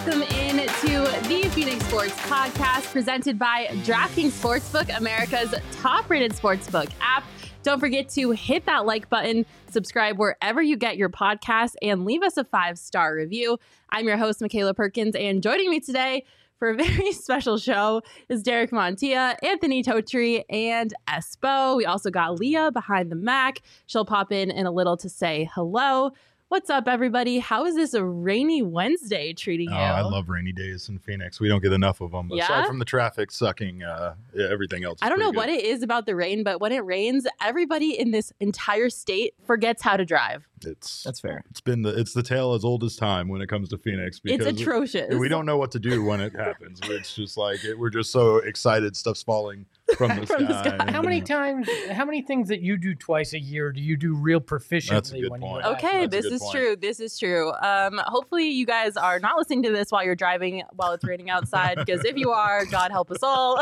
welcome in to the Phoenix Sports Podcast presented by DraftKings Sportsbook, America's top-rated sportsbook app. Don't forget to hit that like button, subscribe wherever you get your podcasts, and leave us a 5-star review. I'm your host, Michaela Perkins, and joining me today for a very special show is Derek Montilla, Anthony Totri, and Espo. We also got Leah behind the Mac. She'll pop in a little to say hello. What's up, everybody? How is this a rainy Wednesday treating you? Oh, I love rainy days in Phoenix. We don't get enough of them. Aside from the traffic sucking, everything else is I don't know good. what it is about the rain, but when it rains, everybody in this entire state forgets how to drive. That's fair. It's the tale as old as time when it comes to Phoenix. It's atrocious. We don't know what to do when it happens. It's just like we're just so excited stuff's falling from the sky. How many things that you do twice a year do you do real proficiently? That's a good point. Okay, this is true. This is true. Hopefully you guys are not listening to this while you're driving while it's raining outside, because if you are, God help us all.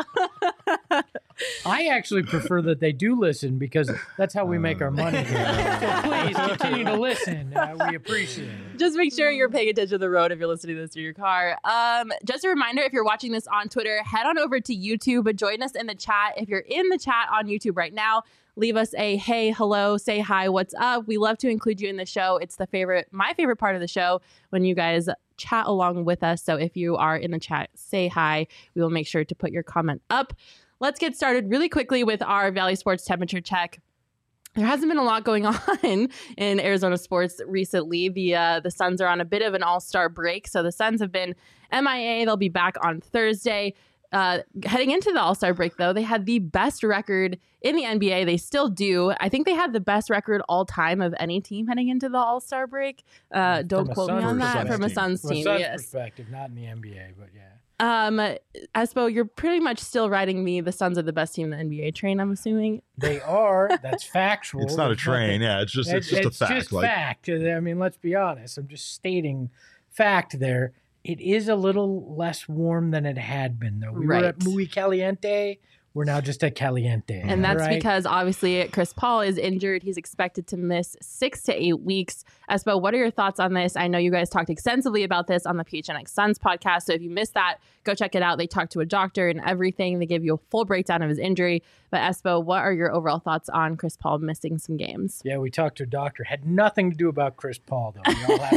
I actually prefer that they do listen, because that's how we make our money. So please continue to listen. We appreciate it. Just make sure you're paying attention to the road if you're listening to this through your car. Just a reminder, if you're watching this on Twitter, head on over to YouTube. Join us in the chat. If you're in the chat on YouTube right now, leave us a hey, hello, say hi, what's up. We love to include you in the show. It's my favorite part of the show when you guys chat along with us. So if you are in the chat, say hi. We will make sure to put your comment up. Let's get started really quickly with our Valley Sports temperature check. There hasn't been a lot going on in Arizona sports recently. The Suns are on a bit of an all-star break. So the Suns have been MIA. They'll be back on Thursday. Heading into the all-star break, though, they had the best record in the NBA. They still do. I think they had the best record all time of any team heading into the all-star break. Don't quote me on that. From a Suns team, From a Suns yes. perspective, not in the NBA, but yeah. Espo, you're pretty much still riding the Suns are the best team in the NBA train, I'm assuming. They are. That's factual. It's not a train. Yeah, it's just a fact. It's just fact. I mean, let's be honest. I'm just stating fact there. It is a little less warm than it had been, though. We were at Muy Caliente. We're now just at Caliente. And that's because, obviously, Chris Paul is injured. He's expected to miss 6 to 8 weeks. Espo, what are your thoughts on this? I know you guys talked extensively about this on the PHNX Suns podcast, so if you missed that, go check it out. They talked to a doctor and everything. They gave you a full breakdown of his injury. But, Espo, what are your overall thoughts on Chris Paul missing some games? Yeah, we talked to a doctor. Had nothing to do about Chris Paul, though. We all had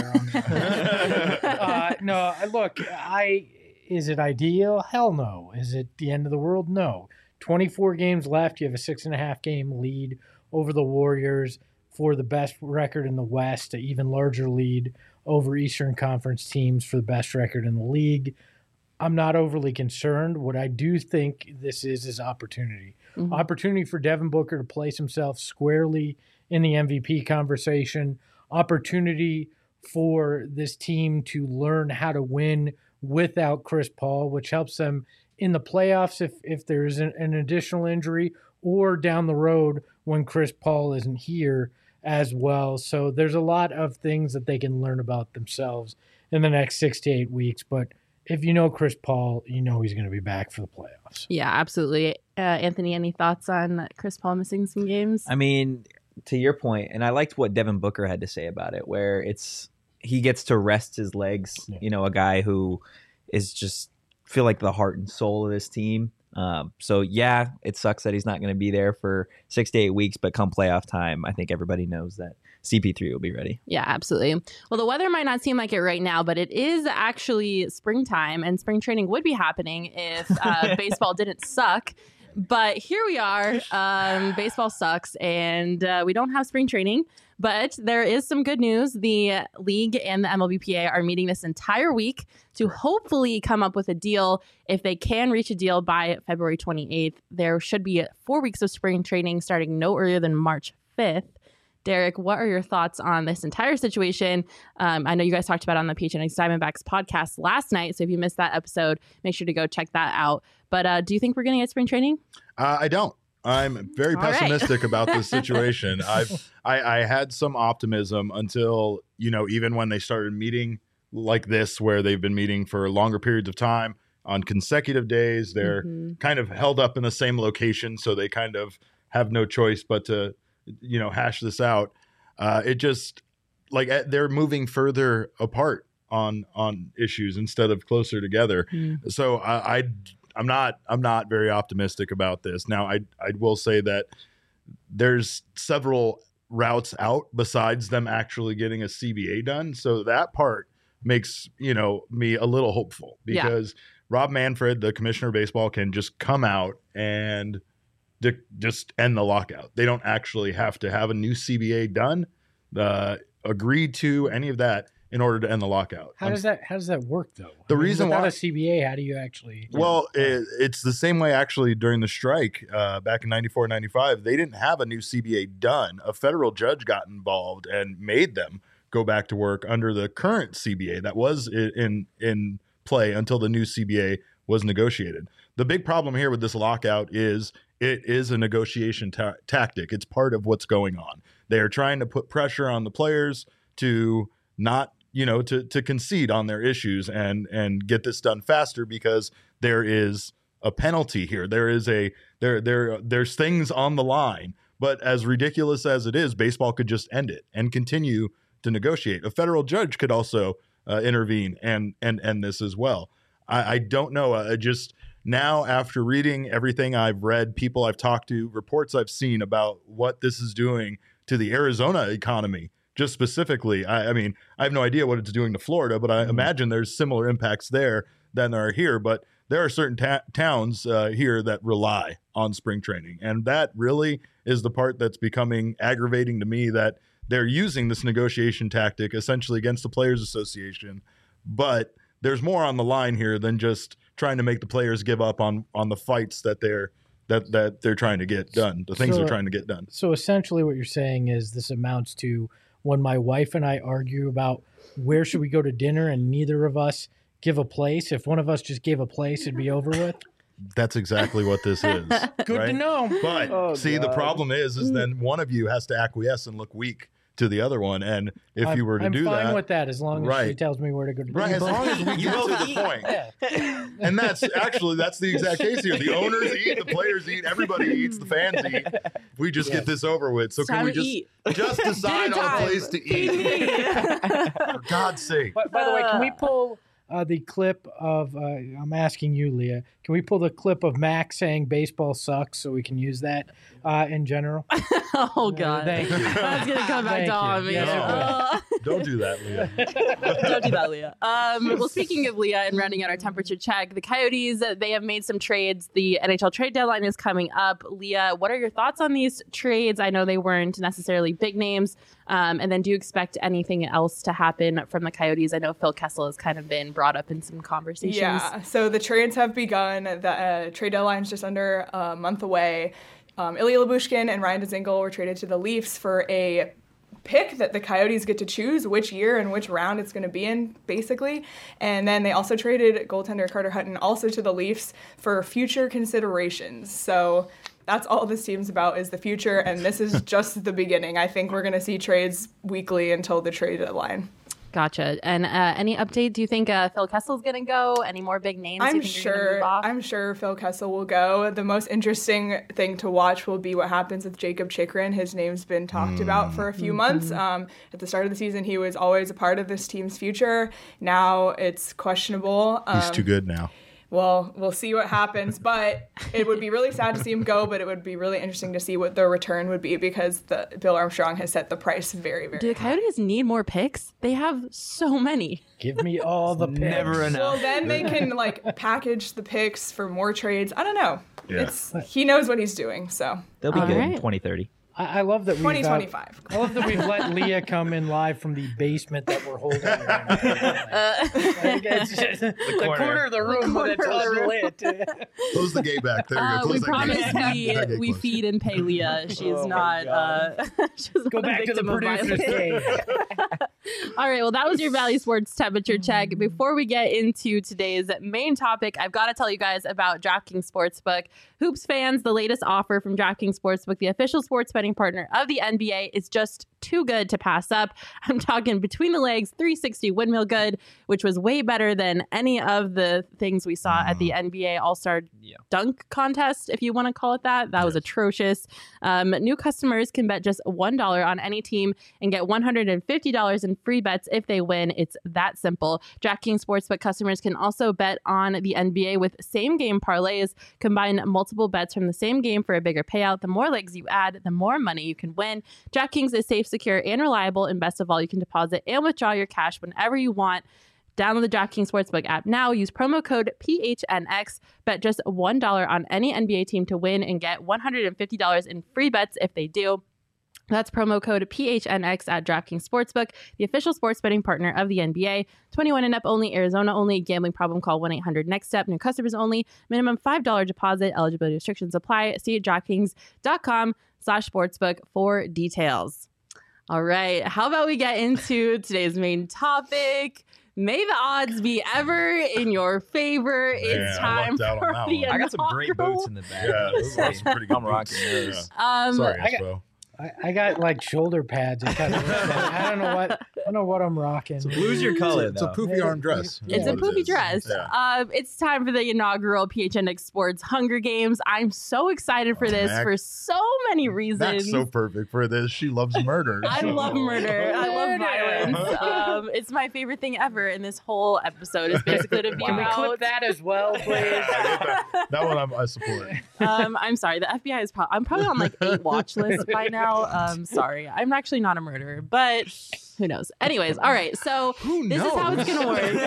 our own. No, look, is it ideal? Hell no. Is it the end of the world? No. 24 games left. You have a 6.5 game lead over the Warriors for the best record in the West, an even larger lead over Eastern Conference teams for the best record in the league. I'm not overly concerned. What I do think this is opportunity. Mm-hmm. Opportunity for Devin Booker to place himself squarely in the MVP conversation. Opportunity for this team to learn how to win without Chris Paul, which helps them in the playoffs if there's an additional injury, or down the road when Chris Paul isn't here as well. So there's a lot of things that they can learn about themselves in the next 6 to 8 weeks. But if you know Chris Paul, you know he's going to be back for the playoffs. Yeah, absolutely. Anthony, any thoughts on Chris Paul missing some games? I mean, to your point, and I liked what Devin Booker had to say about it, where he gets to rest his legs, a guy who is just feel like the heart and soul of this team. So yeah, it sucks that he's not going to be there for 6 to 8 weeks, but come playoff time, I think everybody knows that CP3 will be ready. Yeah, absolutely. Well, the weather might not seem like it right now, but it is actually springtime, and spring training would be happening if baseball didn't suck. But here we are. Baseball sucks, and we don't have spring training. But there is some good news. The league and the MLBPA are meeting this entire week to hopefully come up with a deal. If they can reach a deal by February 28th, there should be 4 weeks of spring training starting no earlier than March 5th. Derek, what are your thoughts on this entire situation? I know you guys talked about it on the PHNX Diamondbacks podcast last night, so if you missed that episode, make sure to go check that out. But do you think we're going to get spring training? I don't. I'm very pessimistic about this situation. I had some optimism until, even when they started meeting like this, where they've been meeting for longer periods of time on consecutive days. They're kind of held up in the same location, so they kind of have no choice but to, hash this out. It just, like, they're moving further apart on issues instead of closer together. So I'm not very optimistic about this. Now I will say that there's several routes out besides them actually getting a CBA done. So that part makes, me a little hopeful, because Rob Manfred, the commissioner of baseball, can just come out and just end the lockout. They don't actually have to have a new CBA done, agreed to, any of that in order to end the lockout. How does that work though? Reason without why a CBA, how do you actually? Well, it's the same way actually during the strike back in 94, 95. They didn't have a new CBA done. A federal judge got involved and made them go back to work under the current CBA that was in play until the new CBA was negotiated. The big problem here with this lockout is it is a negotiation tactic. It's part of what's going on. They are trying to put pressure on the players to not, to concede on their issues and get this done faster, because there is a penalty here. There is there's things on the line. But as ridiculous as it is, baseball could just end it and continue to negotiate. A federal judge could also intervene and end this as well. I don't know. Just now, after reading everything I've read, people I've talked to, reports I've seen about what this is doing to the Arizona economy, just specifically. I mean, I have no idea what it's doing to Florida, but I imagine there's similar impacts there than there are here. But there are certain towns here that rely on spring training. And that really is the part that's becoming aggravating to me, that they're using this negotiation tactic essentially against the Players Association. But there's more on the line here than just trying to make the players give up on the fights that they're trying to get done, the things they're trying to get done. So essentially what you're saying is this amounts to when my wife and I argue about where should we go to dinner and neither of us give a place. If one of us just gave a place, it'd be over with. That's exactly what this is. Good to know. But the problem is then one of you has to acquiesce and look weak to the other one. And if you were to do that, I'm fine with that as long as she tells me where to go to dinner. Right, as long as we get to the point. Yeah. And that's the exact case here. The owners eat, the players eat, everybody eats, the fans eat. We just get this over with. So can we just decide on a place to eat? For God's sake. By the way, can we pull the clip of, I'm asking you, Leah, can we pull the clip of Max saying baseball sucks so we can use that in general? Oh, God. Thank you. That's going to come back to haunt me. Yes, don't do that, Leah. Don't do that, Leah. Well, speaking of Leah and rounding out our temperature check, the Coyotes, they have made some trades. The NHL trade deadline is coming up. Leah, what are your thoughts on these trades? I know they weren't necessarily big names. And then do you expect anything else to happen from the Coyotes? I know Phil Kessel has kind of been brought up in some conversations. Yeah, so the trades have begun. The trade deadline is just under a month away. Ilya Lyubushkin and Ryan Dzingel were traded to the Leafs for a pick that the Coyotes get to choose which year and which round it's going to be in, basically. And then they also traded goaltender Carter Hutton also to the Leafs for future considerations. So that's all this team's about, is the future, and this is just the beginning. I think we're going to see trades weekly until the trade deadline. Gotcha. And any update? Do you think Phil Kessel's going to go? Any more big names? I'm sure Phil Kessel will go. The most interesting thing to watch will be what happens with Jacob Chychrun. His name's been talked about for a few months. At the start of the season, he was always a part of this team's future. Now it's questionable. He's too good now. Well, we'll see what happens, but it would be really sad to see him go, but it would be really interesting to see what the return would be, because Bill Armstrong has set the price very, very high. Do the Coyotes need more picks? They have so many. Give me all the picks. Never enough. Well, then they can package the picks for more trades. I don't know. Yeah. He knows what he's doing, so. They'll be good in 2030. I love that 2025. I love that we've let Leah come in live from the basement that we're holding right now. It's just the corner of the room that's unlit. Close the gate back. There you go. We promise we feed and pay Leah. She's not. She's go back to the producer's cave. All right. Well, that was your Valley Sports temperature check. Before we get into today's main topic, I've got to tell you guys about DraftKings Sportsbook. Hoops fans, the latest offer from DraftKings Sportsbook, the official sports betting partner of the NBA, is just too good to pass up. I'm talking between the legs 360 windmill good, which was way better than any of the things we saw at the NBA All-Star dunk contest, if you want to call it that. That was atrocious. New customers can bet just $1 on any team and get $150 in free bets if they win. It's that simple. DraftKings Sportsbook customers can also bet on the NBA with same-game parlays. Combine multiple bets from the same game for a bigger payout. The more legs you add, the more money you can win. DraftKings is safe, secure, and reliable. And best of all, you can deposit and withdraw your cash whenever you want. Download the DraftKings Sportsbook app now. Use promo code PHNX. Bet just $1 on any NBA team to win and get $150 in free bets if they do. That's promo code PHNX at DraftKings Sportsbook, the official sports betting partner of the NBA. 21 and up only, Arizona only. Gambling problem, call 1-800-NEXT-STEP. New customers only. Minimum $5 deposit. Eligibility restrictions apply. See DraftKings.com/sportsbook for details. All right. How about we get into today's main topic? May the odds be ever in your favor. It's time for the I got some great boots in the back. Yeah, those are some pretty good boots. Sorry, Espo. I got like shoulder pads. And kind of, I don't know what I'm rocking. So blue's your color, It's a poofy arm dress. It's a poofy dress. Yeah. It's time for the inaugural PHNX Sports Hunger Games. I'm so excited for this for so many reasons. That's so perfect for this. She loves murder. I love murder. I love violence. It's my favorite thing ever in this whole episode. Is basically to be Can we about clip that as well, please? that one I support. I'm sorry. The FBI is I'm probably on like 8 watch lists by now. Sorry. I'm actually not a murderer, but who knows? Anyways, all right. So this is how it's gonna work.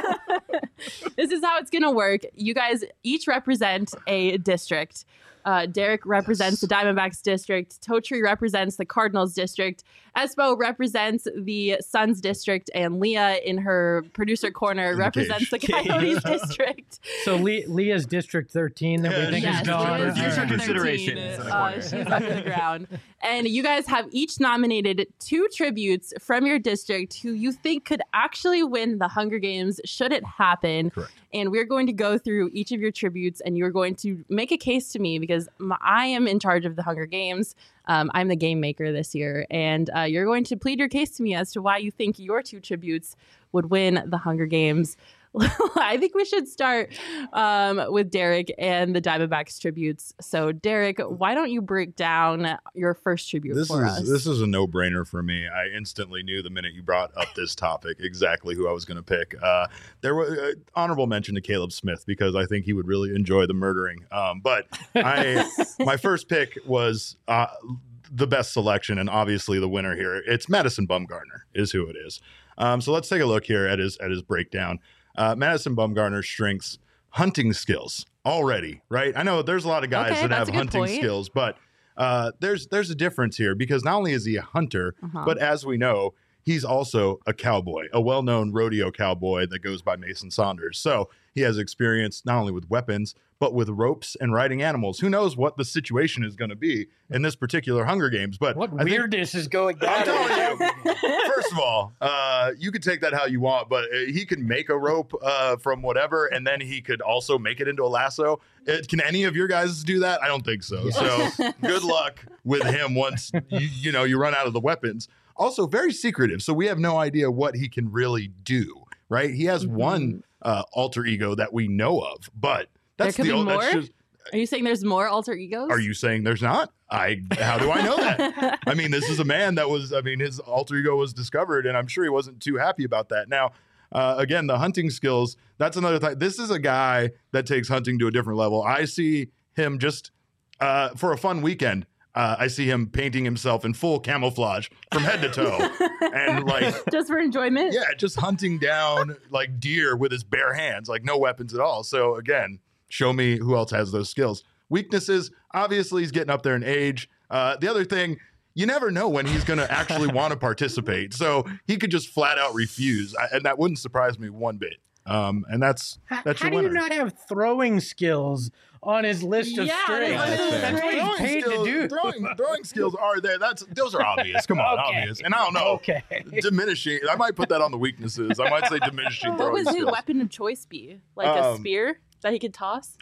This is how it's gonna work. You guys each represent a district. Derek represents the Diamondbacks district. Totri represents the Cardinals district. Espo represents the Suns district. And Leah, in her producer corner, represents the Coyotes district. So Leah's District 13 that we think is gone. Future considerations. She's up in the ground. And you guys have each nominated 2 tributes from your district who you think could actually win the Hunger Games should it happen. Correct. And we're going to go through each of your tributes, and you're going to make a case to me because I am in charge of the Hunger Games. I'm the game maker this year, and you're going to plead your case to me as to why you think your 2 tributes would win the Hunger Games. I think we should start with Derek and the Diamondbacks tributes. So, Derek, why don't you break down your first tribute for us? This is a no-brainer for me. I instantly knew the minute you brought up this topic exactly who I was going to pick. There was honorable mention to Caleb Smith because I think he would really enjoy the murdering. But my first pick was the best selection and obviously the winner here. It's Madison Bumgarner is who it is. So let's take a look here at his breakdown. Madison Bumgarner's strengths, hunting skills already, right? I know there's a lot of guys that have hunting skills, but there's a difference here because not only is he a hunter, but as we know, he's also a cowboy, a well-known rodeo cowboy that goes by Mason Saunders. So he has experience not only with weapons, but with ropes and riding animals. Who knows what the situation is going to be in this particular Hunger Games? But what weirdness is going on? I'm telling you, first of all, you could take that how you want, but he could make a rope from whatever, and then he could also make it into a lasso. Can any of your guys do that? I don't think so. So good luck with him once you run out of the weapons. Also, very secretive, so we have no idea what he can really do. Right? He has one alter ego that we know of, but that's there could be more? Are you saying there's more alter egos? Are you saying there's not? How do I know that? I mean, this is a man that his alter ego was discovered, and I'm sure he wasn't too happy about that. Now, again, the hunting skills, that's another thing. This is a guy that takes hunting to a different level. I see him just for a fun weekend. I see him painting himself in full camouflage from head to toe. And just for enjoyment? Yeah, just hunting down like deer with his bare hands, like no weapons at all. So again, show me who else has those skills. Weaknesses, obviously he's getting up there in age. The other thing, you never know when he's going to actually want to participate. So he could just flat out refuse. And that wouldn't surprise me one bit. And that's how your do winner. You not have throwing skills on his list of strengths? That's what he's paid to do. Throwing skills are there. Those are obvious. Come on, obvious. And I don't know. Okay. Diminishing. I might put that on the weaknesses. I might say diminishing What throwing would his skills. weapon of choice be? Like a spear that he could toss?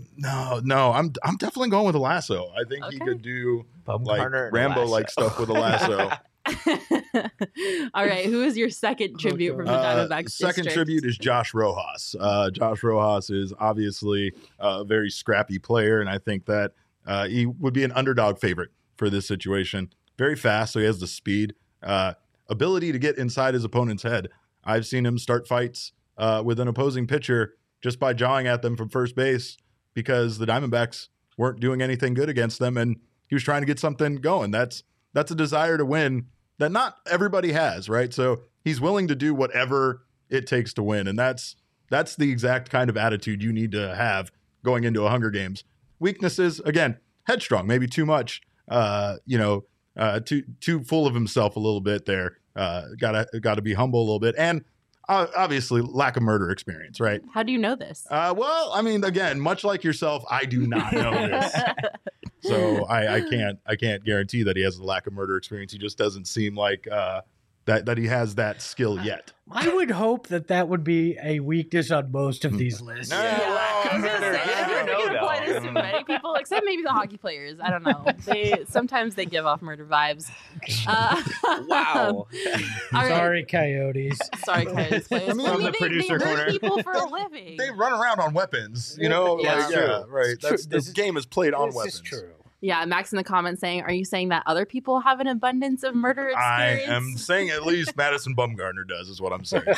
No. I'm definitely going with a lasso. I think he could do like Rambo-like stuff with a lasso. All right, who is your second tribute from the Diamondbacks? Second district? tribute is Josh Rojas. Josh Rojas is obviously a very scrappy player, and I think that he would be an underdog favorite for this situation. Very fast, so he has the speed, ability to get inside his opponent's head. I've seen him start fights with an opposing pitcher just by jawing at them from first base because the Diamondbacks weren't doing anything good against them, and he was trying to get something going. That's a desire to win that not everybody has, right? So he's willing to do whatever it takes to win, and that's the exact kind of attitude you need to have going into a Hunger Games. Weaknesses, again, headstrong, maybe too much, too full of himself a little bit there. Gotta be humble a little bit, and obviously lack of murder experience, right? How do you know this? Well, I mean, again, much like yourself, I do not know this. So I can't guarantee that he has a lack of murder experience. He just doesn't seem like that he has that skill yet. I would hope that would be a weakness on most of these lists. I was gonna say, I don't think it applies to many people, except maybe the hockey players. I don't know. Sometimes they give off murder vibes. Wow. Sorry, Coyotes. Sorry, Coyotes players. From the producer they corner. hurt people for a living. They run around on weapons, you know? Yeah. Like, yeah, right. This game is played on This weapons. is true. Yeah, Max in the comments saying, "Are you saying that other people have an abundance of murder experience?" I am saying at least Madison Bumgarner does, is what I'm saying.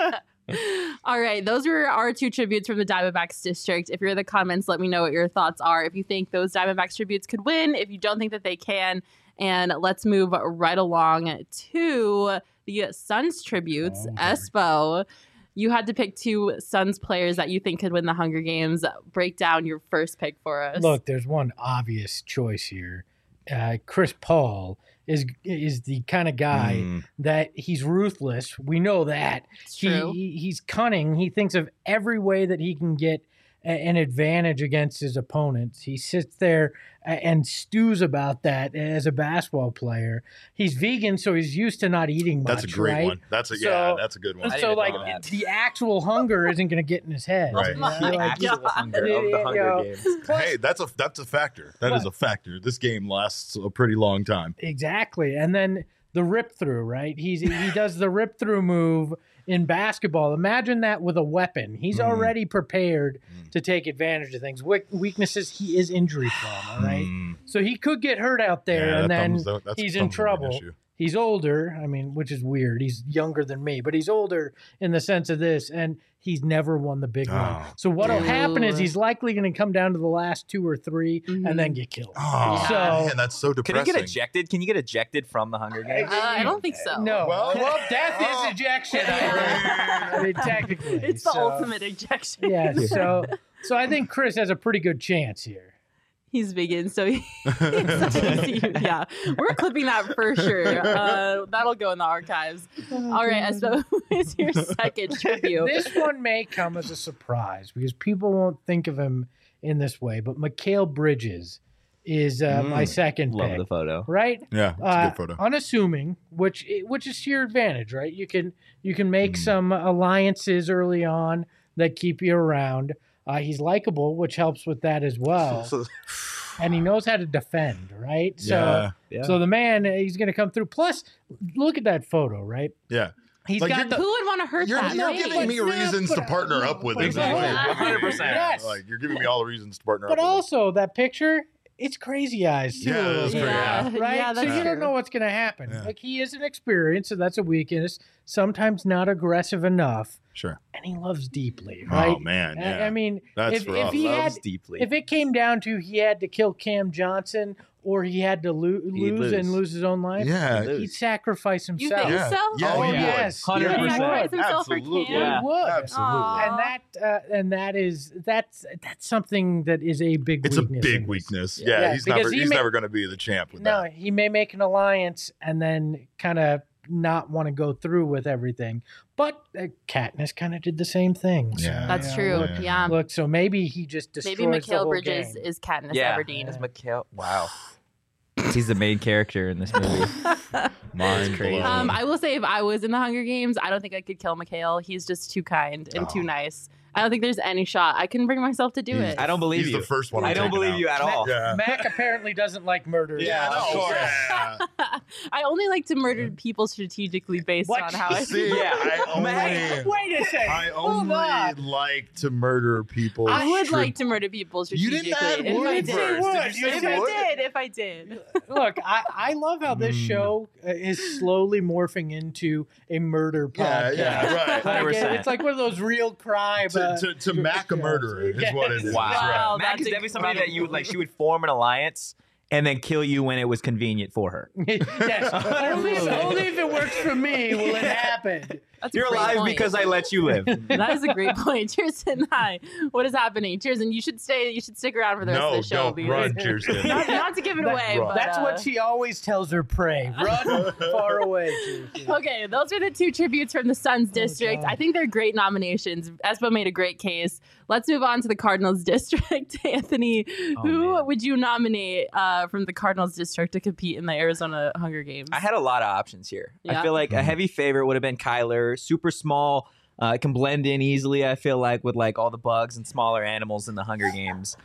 All right, those were our two tributes from the Diamondbacks district. If you're in the comments, let me know what your thoughts are. If you think those Diamondbacks tributes could win, if you don't think that they can, and let's move right along to the Suns tributes. Espo, you had to pick two Suns players that you think could win the Hunger Games. Break down your first pick for us. Look, there's one obvious choice here. Chris Paul is the kind of guy that he's ruthless. We know that. It's true. He's cunning. He thinks of every way that he can get an advantage against his opponents. He sits there and stews about that as a basketball player. He's vegan, so he's used to not eating much. That's a great right? one. That's a good one. So, like, know that. the actual hunger isn't going to get in his head. Right. You know, my like, God. Actual hunger of the Hunger Games. Hey, that's a factor. That is a factor. This game lasts a pretty long time. Exactly. And then the rip through, right? He does the rip through move in basketball. Imagine that with a weapon. He's already prepared to take advantage of things. Weaknesses, he is injury prone, all right? So he could get hurt out there, Yeah, and then that's he's a in thumbs-up trouble. issue. He's older, I mean, which is weird. He's younger than me, but he's older in the sense of this, and he's never won the big one. So what'll happen is he's likely going to come down to the last 2 or 3 and then get killed. Oh, So- man, that's so Can depressing. you get ejected? Can you get ejected from the Hunger Games? I don't think so. No. Well- Well, death is ejection. I mean, technically. It's the So, ultimate ejection. Yeah, so I think Chris has a pretty good chance here. He's vegan, so yeah, we're clipping that for sure. That'll go in the archives. All right, Espo, who is your second tribute? This one may come as a surprise because people won't think of him in this way, but Mikal Bridges is my second Love pick. the photo. Right? Yeah, it's a good photo. Unassuming, which is to your advantage, right? You can make some alliances early on that keep you around. He's likable, which helps with that as well. And he knows how to defend, right? So, Yeah. so the man, he's going to come through. Plus, look at that photo, right? Yeah. He's Like, got Who would want to hurt You're that? giving right? me reasons to partner up with him. Exactly. 100%. Yes. Like, you're giving me all the reasons to partner But up with him. also, that picture, it's crazy eyes, too. Yeah, a little that's bit, great, yeah. Right? Yeah, so that's you don't true. know what's going to happen. Yeah. Like, he is an experience, so that's a weakness. Sometimes not aggressive enough. Sure. And he loves deeply, right? Oh, man, yeah. I mean, That's if rough. he Loves had, deeply. if it came down to he had to kill Cam Johnson or he had to lose and lose his own life, Yeah. he'd sacrifice You himself. think Yeah. so? Yeah, Oh, he would. yes. 100%. He sacrificed himself for Absolutely. Cam? Yeah. He would. Absolutely. And that's something that is a big It's a weakness. big in this. weakness. Yeah, Yeah, he's because never going to be the champ with No, that. he may make an alliance and then kind of not want to go through with everything. But Katniss kind of did the same thing. So, Yeah. That's you true. know, Yeah. Look, so maybe he just destroys Maybe the whole Mikal Bridges game. is Katniss Yeah. Everdeen. Is Mikal? Wow. He's the main character in this movie. Mind crazy. blown. I will say if I was in the Hunger Games, I don't think I could kill Mikhail. He's just too kind and too nice. I don't think there's any shot. I couldn't bring myself to do it. I don't believe He's you. the first one. I I'm don't taking believe out. you at all. Yeah. Mac apparently doesn't like murder. Yeah, so- of course. Yeah. I only like to murder people strategically based What? on how I See, Wait a second. I Hold only on. like to murder people. I would like to murder people You strategically. didn't add if wood I first. did. Did you say If I wood? did, if I did. Look, I love how this show is slowly morphing into a murder Yeah, podcast. yeah, right. Like, 100%. it's like one of those real crime. To Mac a murderer is what it is. Wow. Wow, Mac is that's definitely somebody that you would incredible. she would form an alliance and then kill you when it was convenient for her. Yes, only if it works for me will it happen. That's a You're great alive point. because I let you live. That is a great point. Cheerson, hi. What is happening? Cheerson, you should stay. You should stick around for the rest No, of the show. don't run, Cheerson. Not to give it away, but That's what she always tells her prey. Run far away. Jason. Okay, those are the two tributes from the Suns district. God. I think they're great nominations. Espo made a great case. Let's move on to the Cardinals district. Anthony, who man. would you nominate from the Cardinals district to compete in the Arizona Hunger Games? I had a lot of options here. Yeah. I feel like a heavy favorite would have been Kyler. Super small, can blend in easily. I feel like with like all the bugs and smaller animals in the Hunger Games.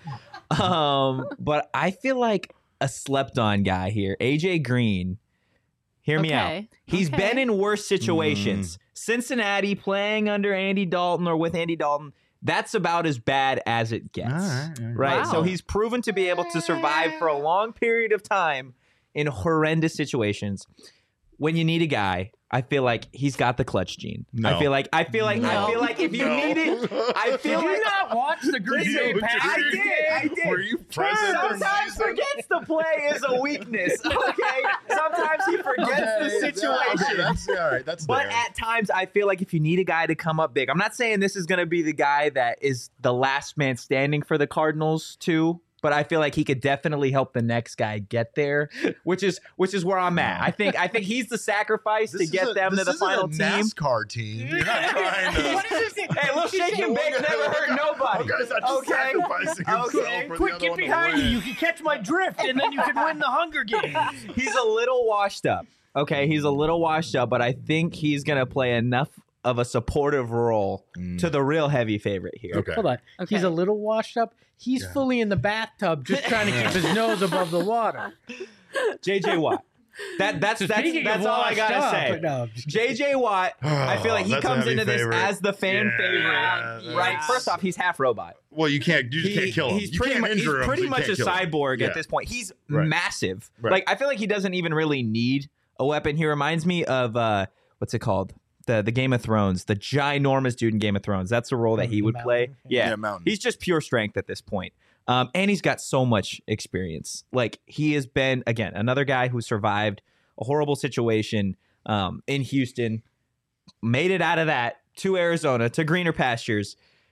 But I feel like a slept on guy here, AJ Green. Hear me out. Okay, He's okay. been in worse situations. Cincinnati playing under Andy Dalton or with Andy Dalton. That's about as bad as it gets. All right. Right. Wow. So he's proven to be able to survive for a long period of time in horrendous situations. When you need a guy, I feel like he's got the clutch gene. No. I feel like No. if you No. need it, I feel Did you like not watch the Green Bay You Packers did. game? I did. Were you present this Sometimes season? forgets to play is a weakness. Okay. Sometimes he forgets the situation. Okay, that's all right. That's But there. at times, I feel like if you need a guy to come up big, I'm not saying this is going to be the guy that is the last man standing for the Cardinals too, but I feel like he could definitely help the next guy get there, which is where I'm at. I think he's the sacrifice to get them to the final this team. isn't a NASCAR team. You're not trying to. What is this? Hey, little shake and bake never hurt nobody. Okay, he's not just Okay. sacrificing himself Okay. for the Quick, other get one to behind you. win. You can catch my drift, and then you can win the Hunger Games. He's a little washed up. Okay, he's a little washed up, but I think he's gonna play enough of a supportive role to the real heavy favorite here. Okay. Hold on. Okay. He's a little washed up. He's fully in the bathtub, just trying to keep his nose above the water. JJ Watt. That's Speaking of all I washed gotta up, say. no, I'm just kidding. JJ Watt, I feel like he That's a comes heavy into this favorite. as the fan favorite, Yeah, right? that's- First off, he's half robot. Well, you can't kill him. He's You pretty, can't much, he's injure him, pretty so you much a can't kill him. cyborg Yeah. at this point. He's Right. massive. Right. Like I feel like he doesn't even really need a weapon. He reminds me of what's it called? The Game of Thrones, the ginormous dude in Game of Thrones. That's the role that he The would play. mountain? Yeah, Yeah, mountain. he's just pure strength at this point. And he's got so much experience. Like he has been, again, another guy who survived a horrible situation in Houston, made it out of that to Arizona, to greener pastures.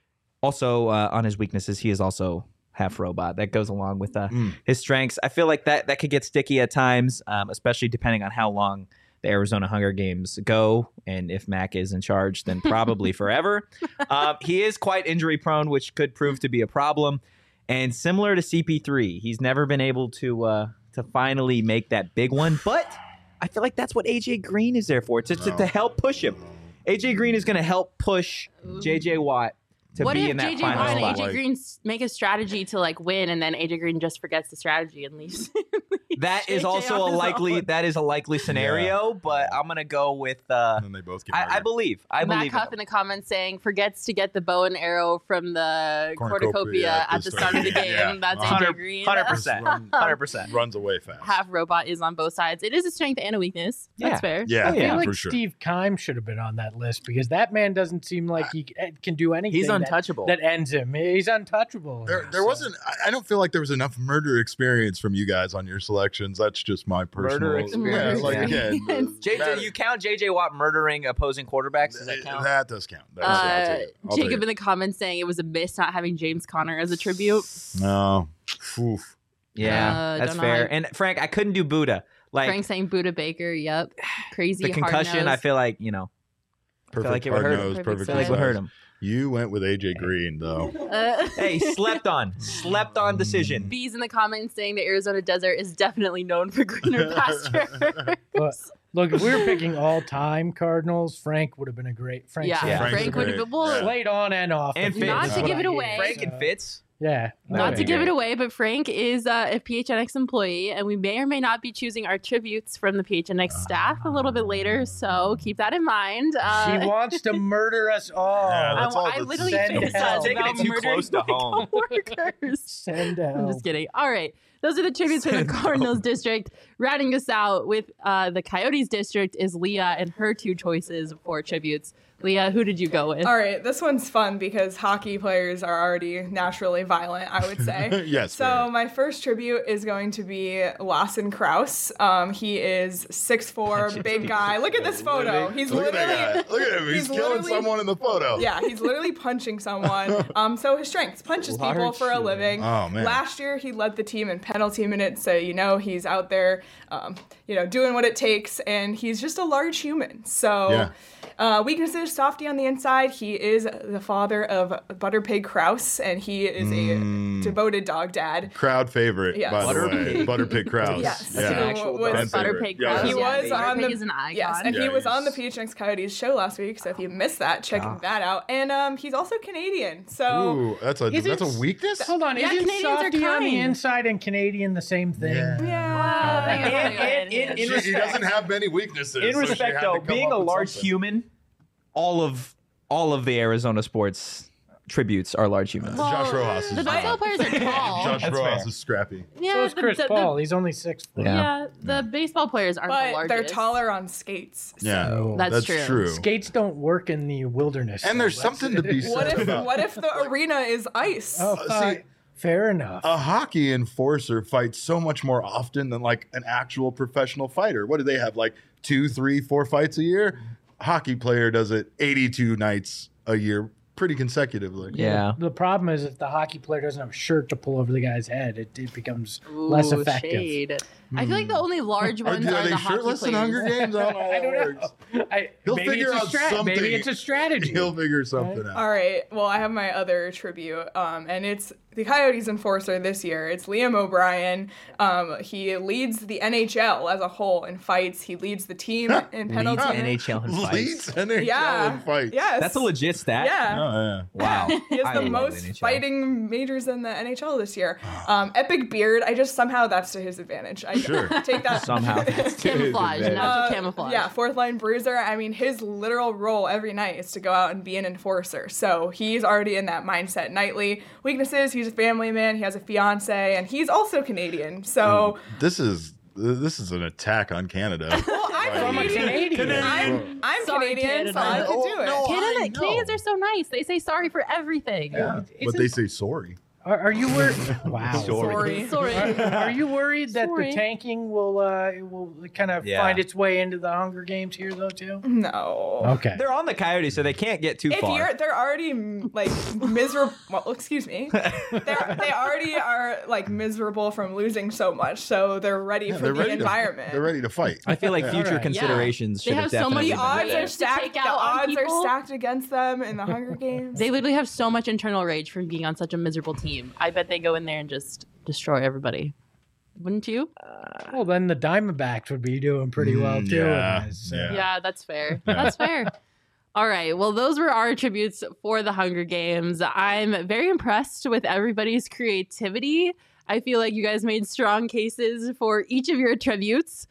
Also, on his weaknesses, he is also half robot. That goes along with his strengths. I feel like that could get sticky at times, especially depending on how long the Arizona Hunger Games go. And if Mac is in charge, then probably forever. He is quite injury prone, which could prove to be a problem. And similar to CP3, he's never been able to finally make that big one. But I feel like that's what AJ Green is there for, to help push him. AJ Green is going to help push JJ Watt to What be if in that JJ final Watt and spot. AJ Green make a strategy to like win, and then AJ Green just forgets the strategy and leaves? That is JJ also on a his likely own. that is a likely scenario, but I'm gonna go with And then they both get I murdered. believe Matt in Huff in them. the comments saying forgets to get the bow and arrow from the Cornucopia cornucopia at the start of the game. Yeah. That's 100%. AJ Green. 100%. 100%. Runs away fast. Half robot is on both sides. It is a strength and a weakness. That's Yeah. fair. Yeah, I feel yeah, like for sure. Steve Keim should have been on that list because that man doesn't seem like he can do anything. He's untouchable. That ends him. He's untouchable. There So- wasn't. I don't feel like there was enough murder experience from you guys on your selections. That's just my personal. experience, Yeah, like yeah. again, JJ, you count JJ Watt murdering opposing quarterbacks? Does that count? That does count. That's, I'll take it. I'll take Jacob it. in the comments saying it was a miss not having James Conner as a tribute. No. Oof. Yeah, that's don't know fair. how- And Frank, I couldn't do Buddha. Like Frank saying Buda Baker. Yep. Crazy the concussion, hard-nosed. I feel like Perfect like it would hard hurt him. nose, Perfect perfect I feel like it would size. hurt him. You went with AJ Green though. Hey, slept on decision. Bees in the comments saying the Arizona desert is definitely known for greener pasture. Look, if we were picking all-time Cardinals, Frank would have been a great. Frank's yeah, Yeah. Frank Frank's would great. have been. Well, Yeah. played on and off. And the Fitz. field not is to what give I it hear. away. Frank and Fitz. Yeah. Not to give great. it away, but Frank is a PHNX employee, and we may or may not be choosing our tributes from the PHNX staff a little bit later. So keep that in mind. She wants to murder us all. Yeah, that's all I that's- literally Send fantasize hell. Taking about it too murdering close to my home. coworkers. Send I'm help. just kidding. All right. Those are the tributes for the Send Cardinals district. Rounding us out with the Coyotes district is Leah and her 2 choices for tributes. Leah, who did you go with? All right, this one's fun because hockey players are already naturally violent, I would say. Yes. So fair. my first tribute is going to be Lawson Krause. He is 6'4", big guy. Look at this photo. He's Look at literally that guy. Look at him. He's killing literally- someone in the photo. Yeah, he's literally punching someone. So his strengths, punches people Large for a human. living. Oh, man. Last year he led the team in penalty minutes, so he's out there, doing what it takes, and he's just a large human. So weaknesses: softy on the inside. He is the father of Butterpig Krause, and he is a devoted dog dad. Crowd favorite, Yes. by the way. Butterpig. Butterpig Krause. Yes. Yeah. Who actual was- dog. Fan Butterpig favorite. Yeah, Krause. He yeah. was on Butterpig the is an icon. Yes, and Yeah, he was on the he's- PHNX Coyotes show last week. So if you missed that, check that out. And he's also Canadian. So Ooh, that's a Isn't- weakness. Hold on, Yeah, isn't Canadians are softy on the kind. inside and Canadian the same thing? yeah. In He respect, doesn't have many weaknesses. in so she respect had to though, come being up a with large something. human, all of the Arizona sports tributes are large humans. Well, Josh Rojas is the fine. baseball players are tall. Josh That's Rojas fair. is scrappy. Yeah, So is Chris Paul. He's only 6 foot. Yeah. The baseball players aren't the But largest. they're taller on skates. Yeah, So- That's true. Skates don't work in the wilderness. And there's so something to be said What if about the arena is ice? Oh, see- fair enough. a hockey enforcer fights so much more often than like an actual professional fighter. What do they have? Like 2, 3, 4 fights a year? Hockey player does it 82 nights a year, pretty consecutively. Yeah. The problem is if the hockey player doesn't have a shirt to pull over the guy's head, it becomes less Ooh, effective. shade. I feel like the only large Are, ones are are they the hockey shirtless in players. Hunger Games? I don't know how I that don't works. know. He'll Maybe figure it's out something. Maybe it's a strategy. He'll figure something out. All right. Well, I have my other tribute, and it's the Coyotes enforcer this year. It's Liam O'Brien. He leads the NHL as a whole in fights. He leads the team in penalty. Leads NHL in Leads fights. NHL Yeah. in fights. Yes. That's a legit stat. Yeah. Oh, yeah. Wow. He has I the love most NHL. fighting majors in the NHL this year. Epic beard. I just somehow that's to his advantage. I Sure. take that Somehow. Camouflage, natural camouflage. Yeah, fourth line bruiser. I mean, his literal role every night is to go out and be an enforcer. So he's already in that mindset nightly. Weaknesses: he's a family man. He has a fiance, and he's also Canadian. So This is an attack on Canada. well, I'm From a Canadian. Canadian. I'm Sorry, Canadian, so I Canada. could do it. No, Canadians are so nice. They say sorry for everything. But they say sorry. Are you worried? Wow. Sorry. Sorry. Are you worried that Sorry. the tanking will kind of Yeah. find its way into the Hunger Games here, though, too? No. Okay. They're on the Coyotes, so they can't get too If far. they're already like miserable, well, excuse me, they already are like miserable from losing so much, so they're ready for They're the ready environment. They're ready to fight. I feel like future Alright. considerations They should have have so definitely much The been odds there. are to stacked. take The out on odds are people. stacked against them in the Hunger Games. They literally have so much internal rage from being on such a miserable team. I bet they go in there and just destroy everybody. Wouldn't you? Well, then the Diamondbacks would be doing pretty well, too. yeah, in this, yeah. Yeah, that's fair. That's fair. All right. Well, those were our tributes for the Hunger Games. I'm very impressed with everybody's creativity. I feel like you guys made strong cases for each of your tributes.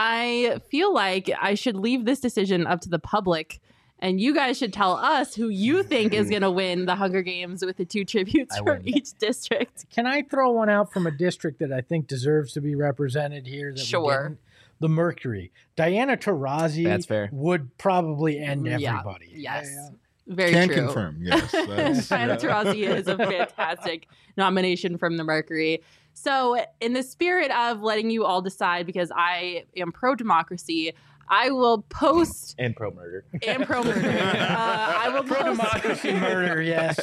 I feel like I should leave this decision up to the public, and you guys should tell us who you think is going to win the Hunger Games with the 2 tributes I from win. each district. Can I throw one out from a district that I think deserves to be represented here? That we Sure. didn't? The Mercury. Diana Taurasi That's fair. would probably end Yeah. everybody. Yes. Very Can true. confirm. Yes. That's, Diana Taurasi is a fantastic nomination from the Mercury. So, in the spirit of letting you all decide, because I am pro-democracy, I will post And pro murder. and pro-murder. I will post. Pro-democracy murder, yes.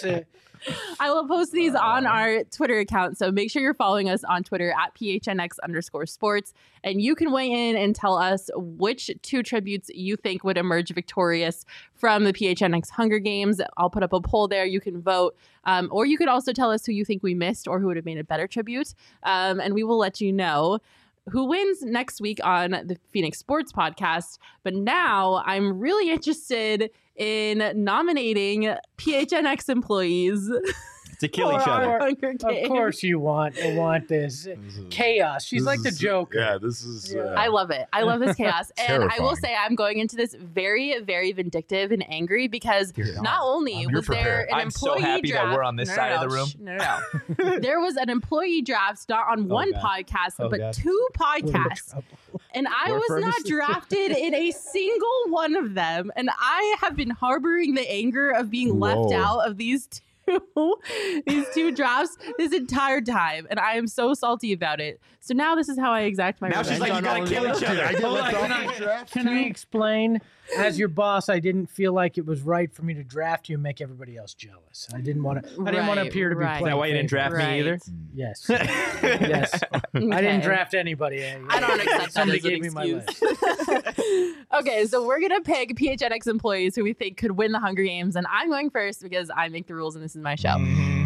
I will post these on our Twitter account. So make sure you're following us on Twitter at PHNX_sports. And you can weigh in and tell us which 2 tributes you think would emerge victorious from the PHNX Hunger Games. I'll put up a poll there. You can vote. Or you could also tell us who you think we missed or who would have made a better tribute. And we will let you know who wins next week on the Phoenix Sports Podcast. But now I'm really interested in nominating PHNX employees. It's to kill each other. Of course you want this chaos. She's like the Joker. Yeah, this is. I love it. I love this chaos. And I will Terrifying. say I'm going into this very, very vindictive and angry because not only was there an I'm so employee happy that draft. we're on this side of the room. No. There was an employee draft not on one God. podcast, but God. 2 podcasts. And I was not drafted in a single one of them. And I have been harboring the anger of being left out of these two drafts this entire time, and I am so salty about it. So now this is how I exact my Now revenge. she's like, you gotta kill each other. Hold on, can I explain? As your boss, I didn't feel like it was right for me to draft you and make everybody else jealous. I didn't want to. I didn't want to appear to be Right. playing. Is that why you didn't draft Right. me either? Yes. Yes. I didn't draft anybody. I don't accept that Somebody as an gave me my excuse. list. Okay, so we're gonna pick PHNX employees who we think could win the Hunger Games, and I'm going first because I make the rules and this is my show.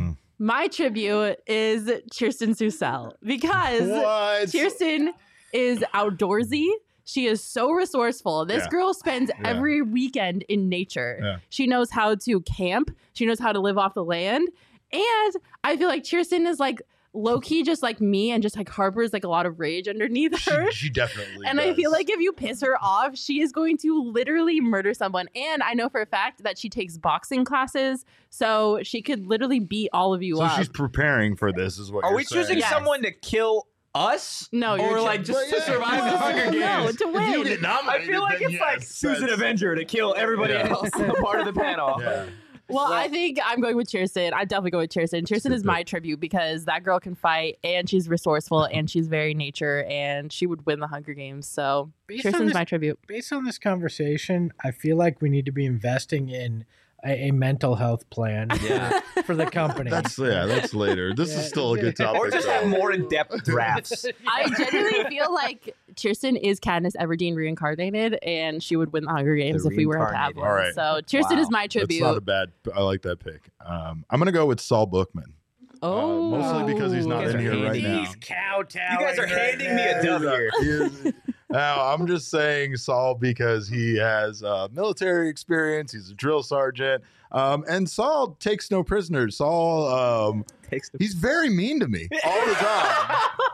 My tribute is Kirsten Susel because What? Kirsten is outdoorsy. She is so resourceful. This Yeah. girl spends every weekend in nature. Yeah. She knows how to camp. She knows how to live off the land. And I feel like Kirsten is like low-key just like me and just like harbors like a lot of rage underneath her. She definitely. And I feel like if you piss her off, she is going to literally murder someone. And I know for a fact that she takes boxing classes, so she could literally beat all of you So up. she's preparing for this, is what Are you're we saying. choosing Yes. someone to kill us? No, you're or like just to survive the Hunger Games. No, to If you win. get I nominated, feel like then it's like yes, Susan that's- Avenger to kill everybody Yeah. else part of the panel. Yeah. Well, I think I'm going with Kirsten. I definitely go with Kirsten. Kirsten is my tribute because that girl can fight and she's resourceful and she's very nature and she would win the Hunger Games. So Based on Kirsten's this- my tribute. Based on this conversation, I feel like we need to be investing in a mental health plan Yeah. for the company. That's later. This Yeah. is still a good topic. Or just though. have more in-depth drafts. I genuinely feel like Kirsten is Katniss Everdeen reincarnated and she would win the Hunger Games if we were to have reincarnated. one. All right. So Kirsten Wow. is my That's tribute. not a bad. I like that pick. I'm gonna go with Saul Bookman. Oh. Mostly because he's not You guys in are here right handing now. He's kowtowing. You guys are right handing me a now. dub here. Now, I'm just saying Saul because he has military experience. He's a drill sergeant. And Saul takes no prisoners. Saul, he's very mean to me all the time.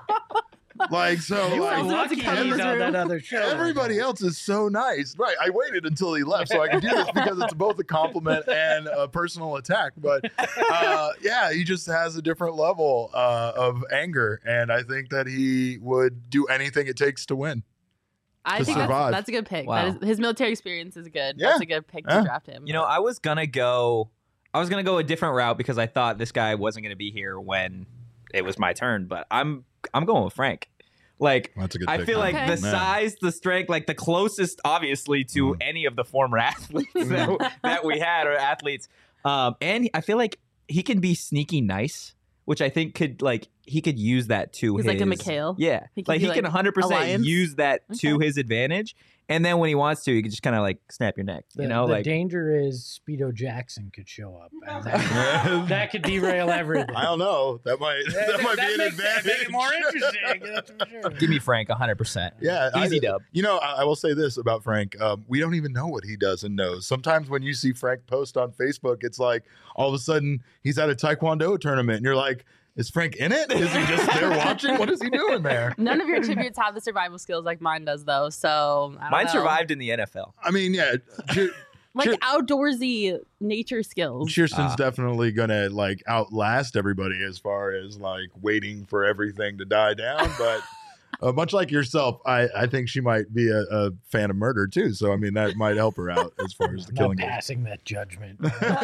Like, so, You like, are lucky he's on that other show. everybody else is so nice. Right. I waited until he left so I could do this because it's both a compliment and a personal attack. But yeah, he just has a different level of anger. And I think that he would do anything it takes to win. I to think survive. that's a good pick. Wow. That is, his military experience is good. Yeah. That's a good pick to Yeah. draft him. You know, I was gonna go a different route because I thought this guy wasn't gonna be here when it was my turn, but I'm going with Frank. Like, That's a good I pick. feel like Okay. the Man. size, the strength, like the closest, obviously, to any of the former athletes that we had or athletes. And I feel like he can be sneaky nice, which I think he could use that to He's his. like a McHale. Yeah, He can like be he can like 100% Alliance. use that to Okay. his advantage. And then when he wants to, he can just kind of like snap your neck. The, You know, the like danger is Speedo Jackson could show up. And that could derail everything. I don't know. That might be an advantage. Make it more interesting. That's for sure. give me Frank 100%. Yeah, Easy dub. You know, I will say this about Frank. We don't even know what he does and knows. Sometimes when you see Frank post on Facebook, it's like all of a sudden he's at a Taekwondo tournament, and you're like, is Frank in it? Is he just there watching? What is he doing there? None of your tributes have the survival skills like mine does, though. So I don't Mine know. survived in the NFL. I mean, yeah, Like Cheer- outdoorsy nature skills. Kirsten's definitely gonna like outlast everybody as far as like waiting for everything to die down. But much like yourself, I think she might be a fan of murder too. So I mean, that might help her out as far as the I'm killing not goes. passing that judgment.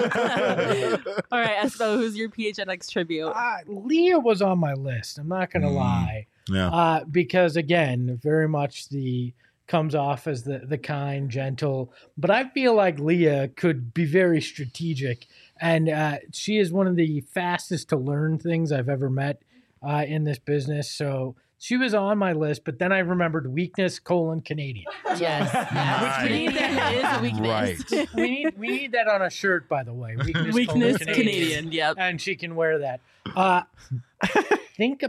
All right, Espo, who's your PHNX tribute? Leah was on my list. I'm not going to lie. Yeah. Because again, very much comes off as the kind, gentle, but I feel like Leah could be very strategic, and she is one of the fastest to learn things I've ever met in this business. So she was on my list, but then I remembered weakness : Canadian. Yes, yes. Which we need that is a weakness. Right. We need that on a shirt, by the way. Weakness, Weakness Canadian. Canadian. Yep. And she can wear that. I think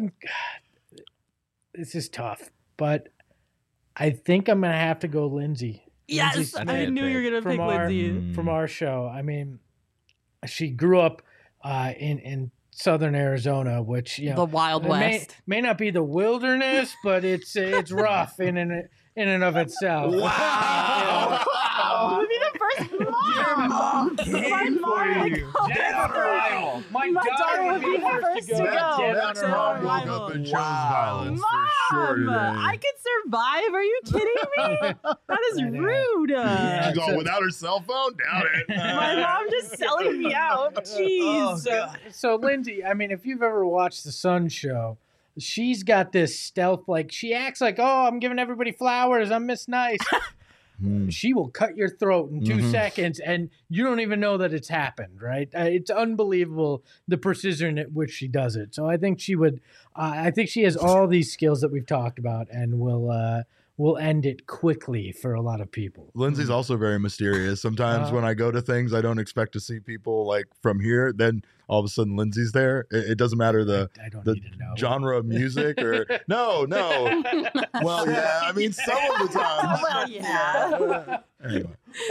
this is tough, but I think I'm gonna have to go Lindsay. Yes, Lindsay I Smith knew you were gonna pick Lindsay. from our show. I mean, she grew up in Southern Arizona, which The Wild it West. may not be the wilderness, but it's rough in and of itself. Wow. Would be the first mom. My mom would come. Dead on arrival. My daughter would be the first to go. Dead on That's mom woke arrival. up and chose violence Mom, for sure today. I could survive. Are you kidding me? That is rude. She's all without her cell phone? Doubt it. My mom just selling me out. Jeez. So Lindsay, I mean, if you've ever watched the Sun Show, she's got this stealth, like she acts like, oh, I'm giving everybody flowers, I'm Miss Nice. She will cut your throat in 2 seconds, and you don't even know that it's happened, right? It's unbelievable the precision at which she does it. So I think she would. I think she has all these skills that we've talked about, and will end it quickly for a lot of people. Lindsay's also very mysterious. Sometimes when I go to things, I don't expect to see people like from here. Then all of a sudden, Lindsay's there. It doesn't matter the need to know. genre of music or no. Well, yeah. I mean, some of the times. Well, yeah. Anyway.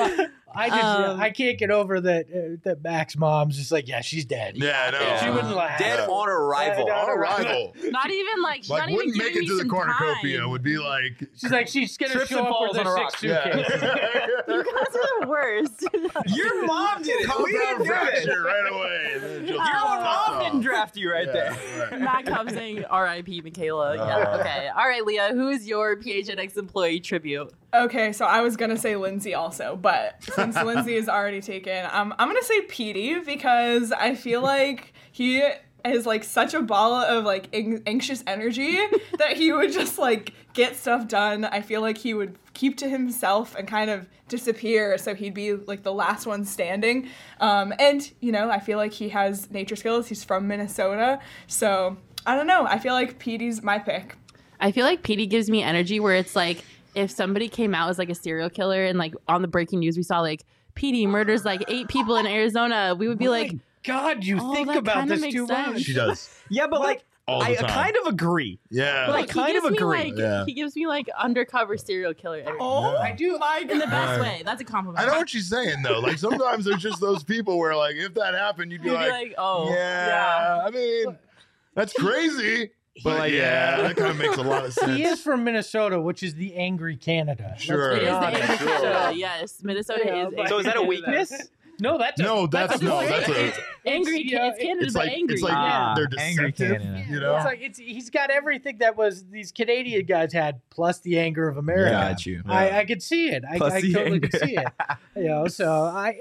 I can't get over that Mac's mom's just like, yeah, she's dead. Yeah, no. She wouldn't laugh. Dead on arrival. Dead On arrival. Not even like, Like, not even wouldn't make giving it me to the some cornucopia. time. Would be like. She's like, she's gonna Trips show and up falls with on her a 6 rock. suitcases. You guys are the worst. Your mom did it. We didn't do it. Fracture right away. And then just Your cuts mom off. didn't draft you right there. Right. Matt comes saying R.I.P. Michaela. Yeah, okay. All right, Leah, who is your PHNX employee tribute? Okay, so I was gonna say Lindsay also, but since Lindsay is already taken, I'm gonna say Petey because I feel like he is like such a ball of like anxious energy that he would just like get stuff done. I feel like he would keep to himself and kind of disappear, so he'd be like the last one standing. And you know, I feel like he has nature skills. He's from Minnesota, so I don't know. I feel like Petey's my pick. I feel like Petey gives me energy where it's like if somebody came out as like a serial killer and like on the breaking news we saw like Petey murders like 8 people in Arizona, we would be like, God, you oh, think that about kinda this makes too sense. much. She does. Yeah, but like, All the I time. kind of agree. Yeah. like he kind gives of me agree. like Yeah. he gives me like undercover serial killer energy. Oh, I do. In the best Right. way. That's a compliment. I know what she's saying though. Like sometimes there's just those people where like if that happened, you'd be You'd be like, like, oh, yeah. I mean, that's crazy. But like, yeah, that kind of makes a lot of sense. He is from Minnesota, which is the angry Canada. Sure. It is the honest. angry Sure. Canada. Yes, Minnesota Yeah, is. but- So is that a weakness? No, that's a, No, that's a point. a. angry. yeah, It's Canada, It's but like angry. it's like Yeah. they're Angry deceptive. Canada. You know. It's like he's got everything that was these Canadian guys had, plus the anger of America. Got you. I could see it. I Plus the totally anger. could see it. You know, so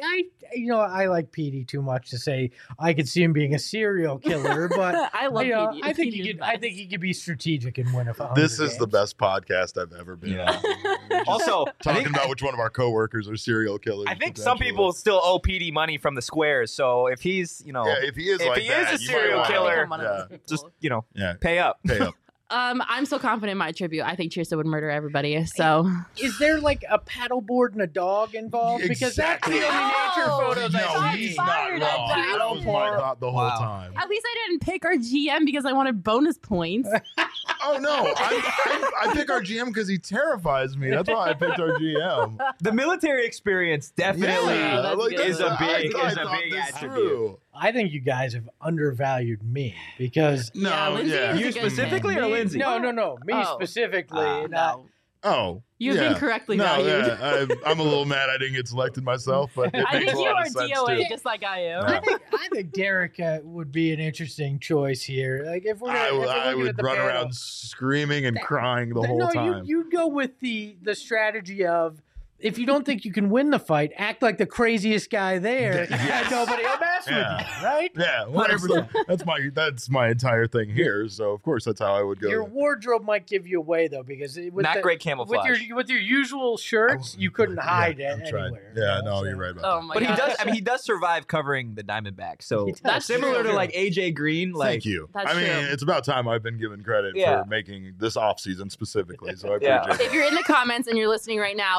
I like Petey too much to say I could see him being a serial killer, but I love you know, Petey. I think Petey he is could. I best. think he could be strategic and win a. This is the best podcast I've ever been Yeah. on. Also, I Talking think, about which one of our coworkers are serial killers. I think some potentially. people still owe PD money from the squares. So if he's, you know, Yeah, if he is if like he that, is a you might serial wanna- killer, I'm one of Yeah. those people. just, you know, Yeah. pay up. Pay up. I'm so confident in my tribute. I think Trista would murder everybody. So Is there like a paddleboard and a dog involved? Because that's the Exactly. only nature Oh, photos No, I Shots he's see. not fired wrong. at That was my thought the whole Wow. time. at least I didn't pick our GM because I wanted bonus points. Oh no, I pick our GM because he terrifies me. That's why I picked our GM. The military experience definitely Yeah, that's good. is a big I is a thought big this attribute. through. I think you guys have undervalued me because No, Yeah, Lindsay yeah. is a You good specifically pick. or Lindsay? No, me Oh. specifically. No. Oh, You've yeah. been correctly No, valued. yeah, I'm a little mad I didn't get selected myself, but it I makes think a you lot are of sense DOA too. just like I am. Yeah. I think Derek would be an interesting choice here. Like if we're, if we're I looking at would the run panel, around screaming and crying the whole no, time. you'd go with the strategy of if you don't think you can win the fight, act like the craziest guy there, Yes. and nobody will mess Yeah. with you, right? Yeah, whatever. That's my entire thing here. So of course that's how I would go. Your wardrobe might give you away though, because with Not the, great camouflage. with your usual shirts, you couldn't hide it I'm trying. anywhere. Yeah, you know, no, so- you're right about Oh that. my But he gosh. does. I mean, he does survive covering the Diamondbacks. So He does. That's similar true. to like AJ Green. Like, Thank you. That's I mean, true. it's about time I've been given credit Yeah. for making this off season specifically. So I Yeah. appreciate If you're in the comments and you're listening right now, let us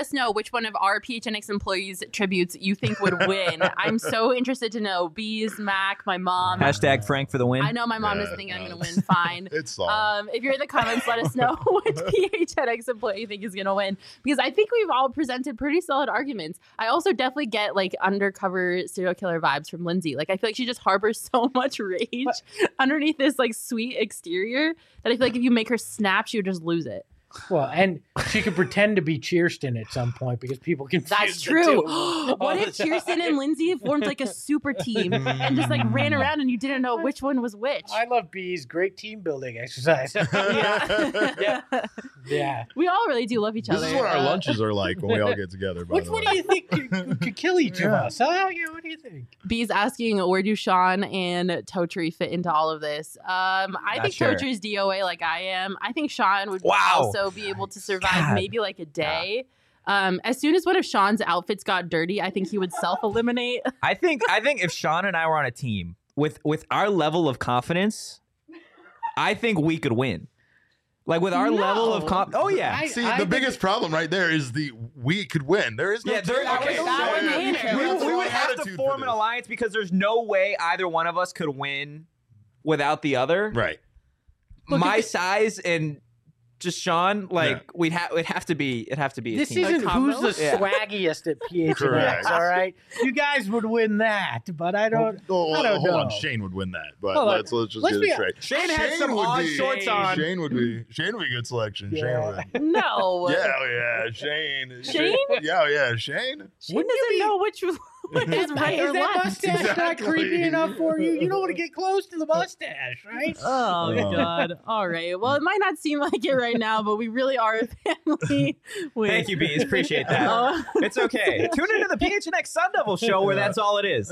us know which one of our PHNX employees' tributes you think would win. I'm so interested to know. Bees, Mac, my mom. Hashtag Frank for the win. I know my mom doesn't think I'm going to win. Fine. It's Saul. If you're in the comments, let us know which PHNX employee you think is going to win, because I think we've all presented pretty solid arguments. I also definitely get like undercover serial killer vibes from Lindsay. Like I feel like she just harbors so much rage underneath this like sweet exterior that I feel like if you make her snap, she would just lose it. Well, and she could pretend to be Cheerston at some point because people confuse That's the true. two What all if the time. Kirsten and Lindsay formed like a super team and just like ran around and you didn't know which one was which? I love bees. Great team building exercise. Yeah. We all really do love each other. This is what our lunches are like when we all get together. By Which the one way. do you think could kill each of us? Huh? Yeah, what do you think? Bee's asking, where do Sean and Totri fit into all of this? I think sure. Totri's DOA like I am. I think Sean would Wow. also be able to survive God. maybe like a day. As soon as one of Sean's outfits got dirty, I think he would self-eliminate. I think if Sean and I were on a team with our level of confidence, I think we could win. Like with our level of oh yeah. See, the biggest problem right there is we could win. There is no Yeah, there, team. okay, that so would mean it. we would have to Attitude for form an this. alliance because there's no way either one of us could win without the other. Right. My size and just Sean, like it'd have to be a This team. isn't combo? who's the Yeah. swaggiest at PHNX, Correct. all right? You guys would win that, but I don't Hold know. on, Shane would win that, but Hold on. let's just Let's get be- it straight. Shane had some would odd be- shorts on. Shane would be a good selection. Yeah. Shane would. No. Yeah, oh yeah, Shane. Shane? Yeah, oh yeah, Shane. She doesn't know which is right or Is that left. mustache not Exactly. creepy enough for you? You don't want to get close to the mustache, right? Oh, God. All right. Well, it might not seem like it right now, but we really are a family. Thank you, Bees. Appreciate that. Oh. It's okay. Tune into the PHNX Sun Devil show where that's all it is.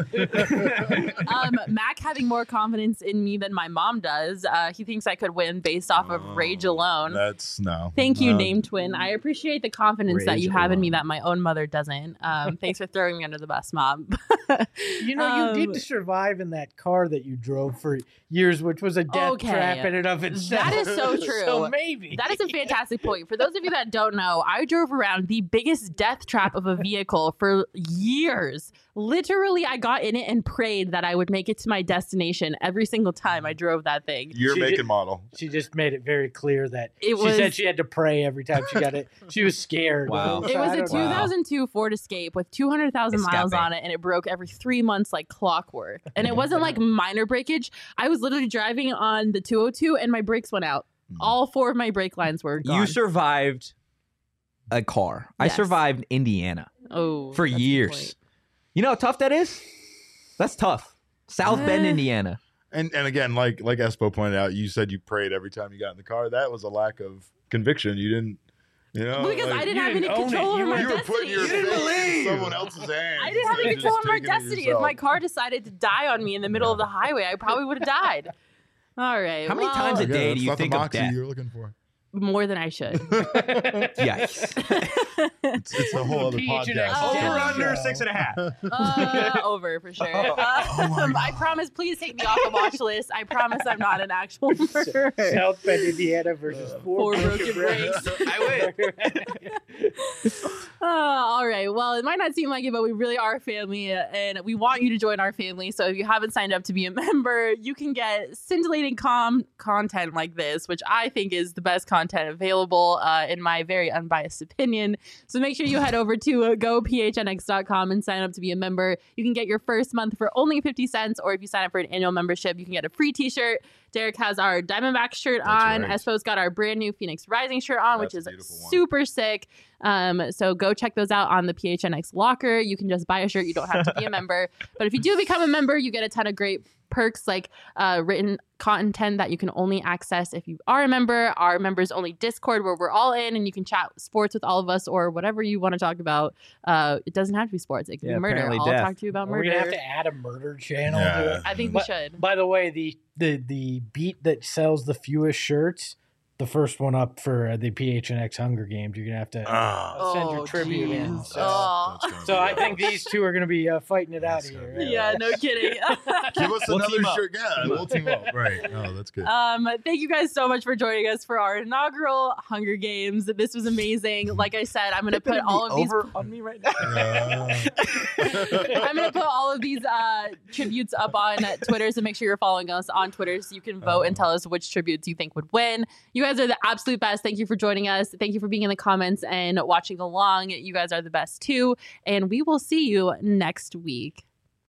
Mac having more confidence in me than my mom does. He thinks I could win based off of rage alone. That's no. Thank you, Name Twin. I appreciate the confidence that Rage you have in me alone. that my own mother doesn't. Thanks for throwing me under the bus, Mom. You know, you did survive in that car that you drove for years, which was a death Okay. trap in and of itself. That is so true. So maybe. That is a fantastic point. For those of you that don't know, I drove around the biggest death trap of a vehicle for years. Literally, I got in it and prayed that I would make it to my destination every single time I drove that thing. Your She make did- and model. She just made it very clear that It she was- said she had to pray every time she got it. She was scared. Wow. So It was I a don't know. 2002 Ford Escape with 200,000 miles Escape. on it, and it broke every 3 months like clockwork. And it wasn't like minor breakage. I was literally driving on the 202, and my brakes went out. All 4 of my brake lines were gone. You survived a car. I Yes. survived Indiana oh, for that's a good years. point. You know how tough that is? That's tough. South Bend, Eh. Indiana. And again, like Espo pointed out, you said you prayed every time you got in the car. That was a lack of conviction. You didn't, Well, because I didn't you have any didn't own control it. over You my You were destiny. putting your didn't faith in believe. someone else's hands. I didn't have any and control just over my taking it destiny. If yourself. my car decided to die on me in the middle of the highway, I probably would have died. All right. How many well, times a day It's do you not the think of moxie death? you're looking for. More than I should. Yikes. It's a whole other PHNX podcast. Over Death under Show. 6.5. Over for sure. I promise. Please take me off the watch list. I promise I'm not an actual murderer. South Bend, Indiana versus 4 broken brakes. I win. All right. Well, it might not seem like it, but we really are a family, and we want you to join our family. So if you haven't signed up to be a member, you can get scintillating content like this, which I think is the best content available, in my very unbiased opinion. So make sure you head over to gophnx.com and sign up to be a member. You can get your first month for only 50 cents, or if you sign up for an annual membership, you can get a free t-shirt. Derek has our Diamondback shirt on. right. Espo's got our brand new Phoenix Rising shirt on, which That's is a beautiful one. super sick. So go check those out on the PHNX locker. You can just buy a shirt. You don't have to be a member. But if you do become a member, you get a ton of great perks like written content that you can only access if you are a member. Our members only Discord where we're all in and you can chat sports with all of us or whatever you want to talk about. It doesn't have to be sports. It can Yeah, be murder. apparently I'll death. talk to you about We're murder. gonna have to add a murder channel to Yeah. it. I think we should. By the way, the beat that sells the fewest shirts the first one up for the PHNX Hunger Games. You're gonna have to send your tribute in. geez. So I think these two are gonna be fighting it out here. Yeah, no kidding. Give us We'll another team up. shirt. Yeah, we'll team up. Right. Oh, that's good. Thank you guys so much for joining us for our inaugural Hunger Games. This was amazing. Like I said, I'm going to put all of these on me right now. I'm going to put all of these tributes up on Twitter, so make sure you're following us on Twitter so you can vote and tell us which tributes you think would win. You guys are the absolute best. Thank you for joining us. Thank you for being in the comments and watching along. You guys are the best too. And we will see you next week.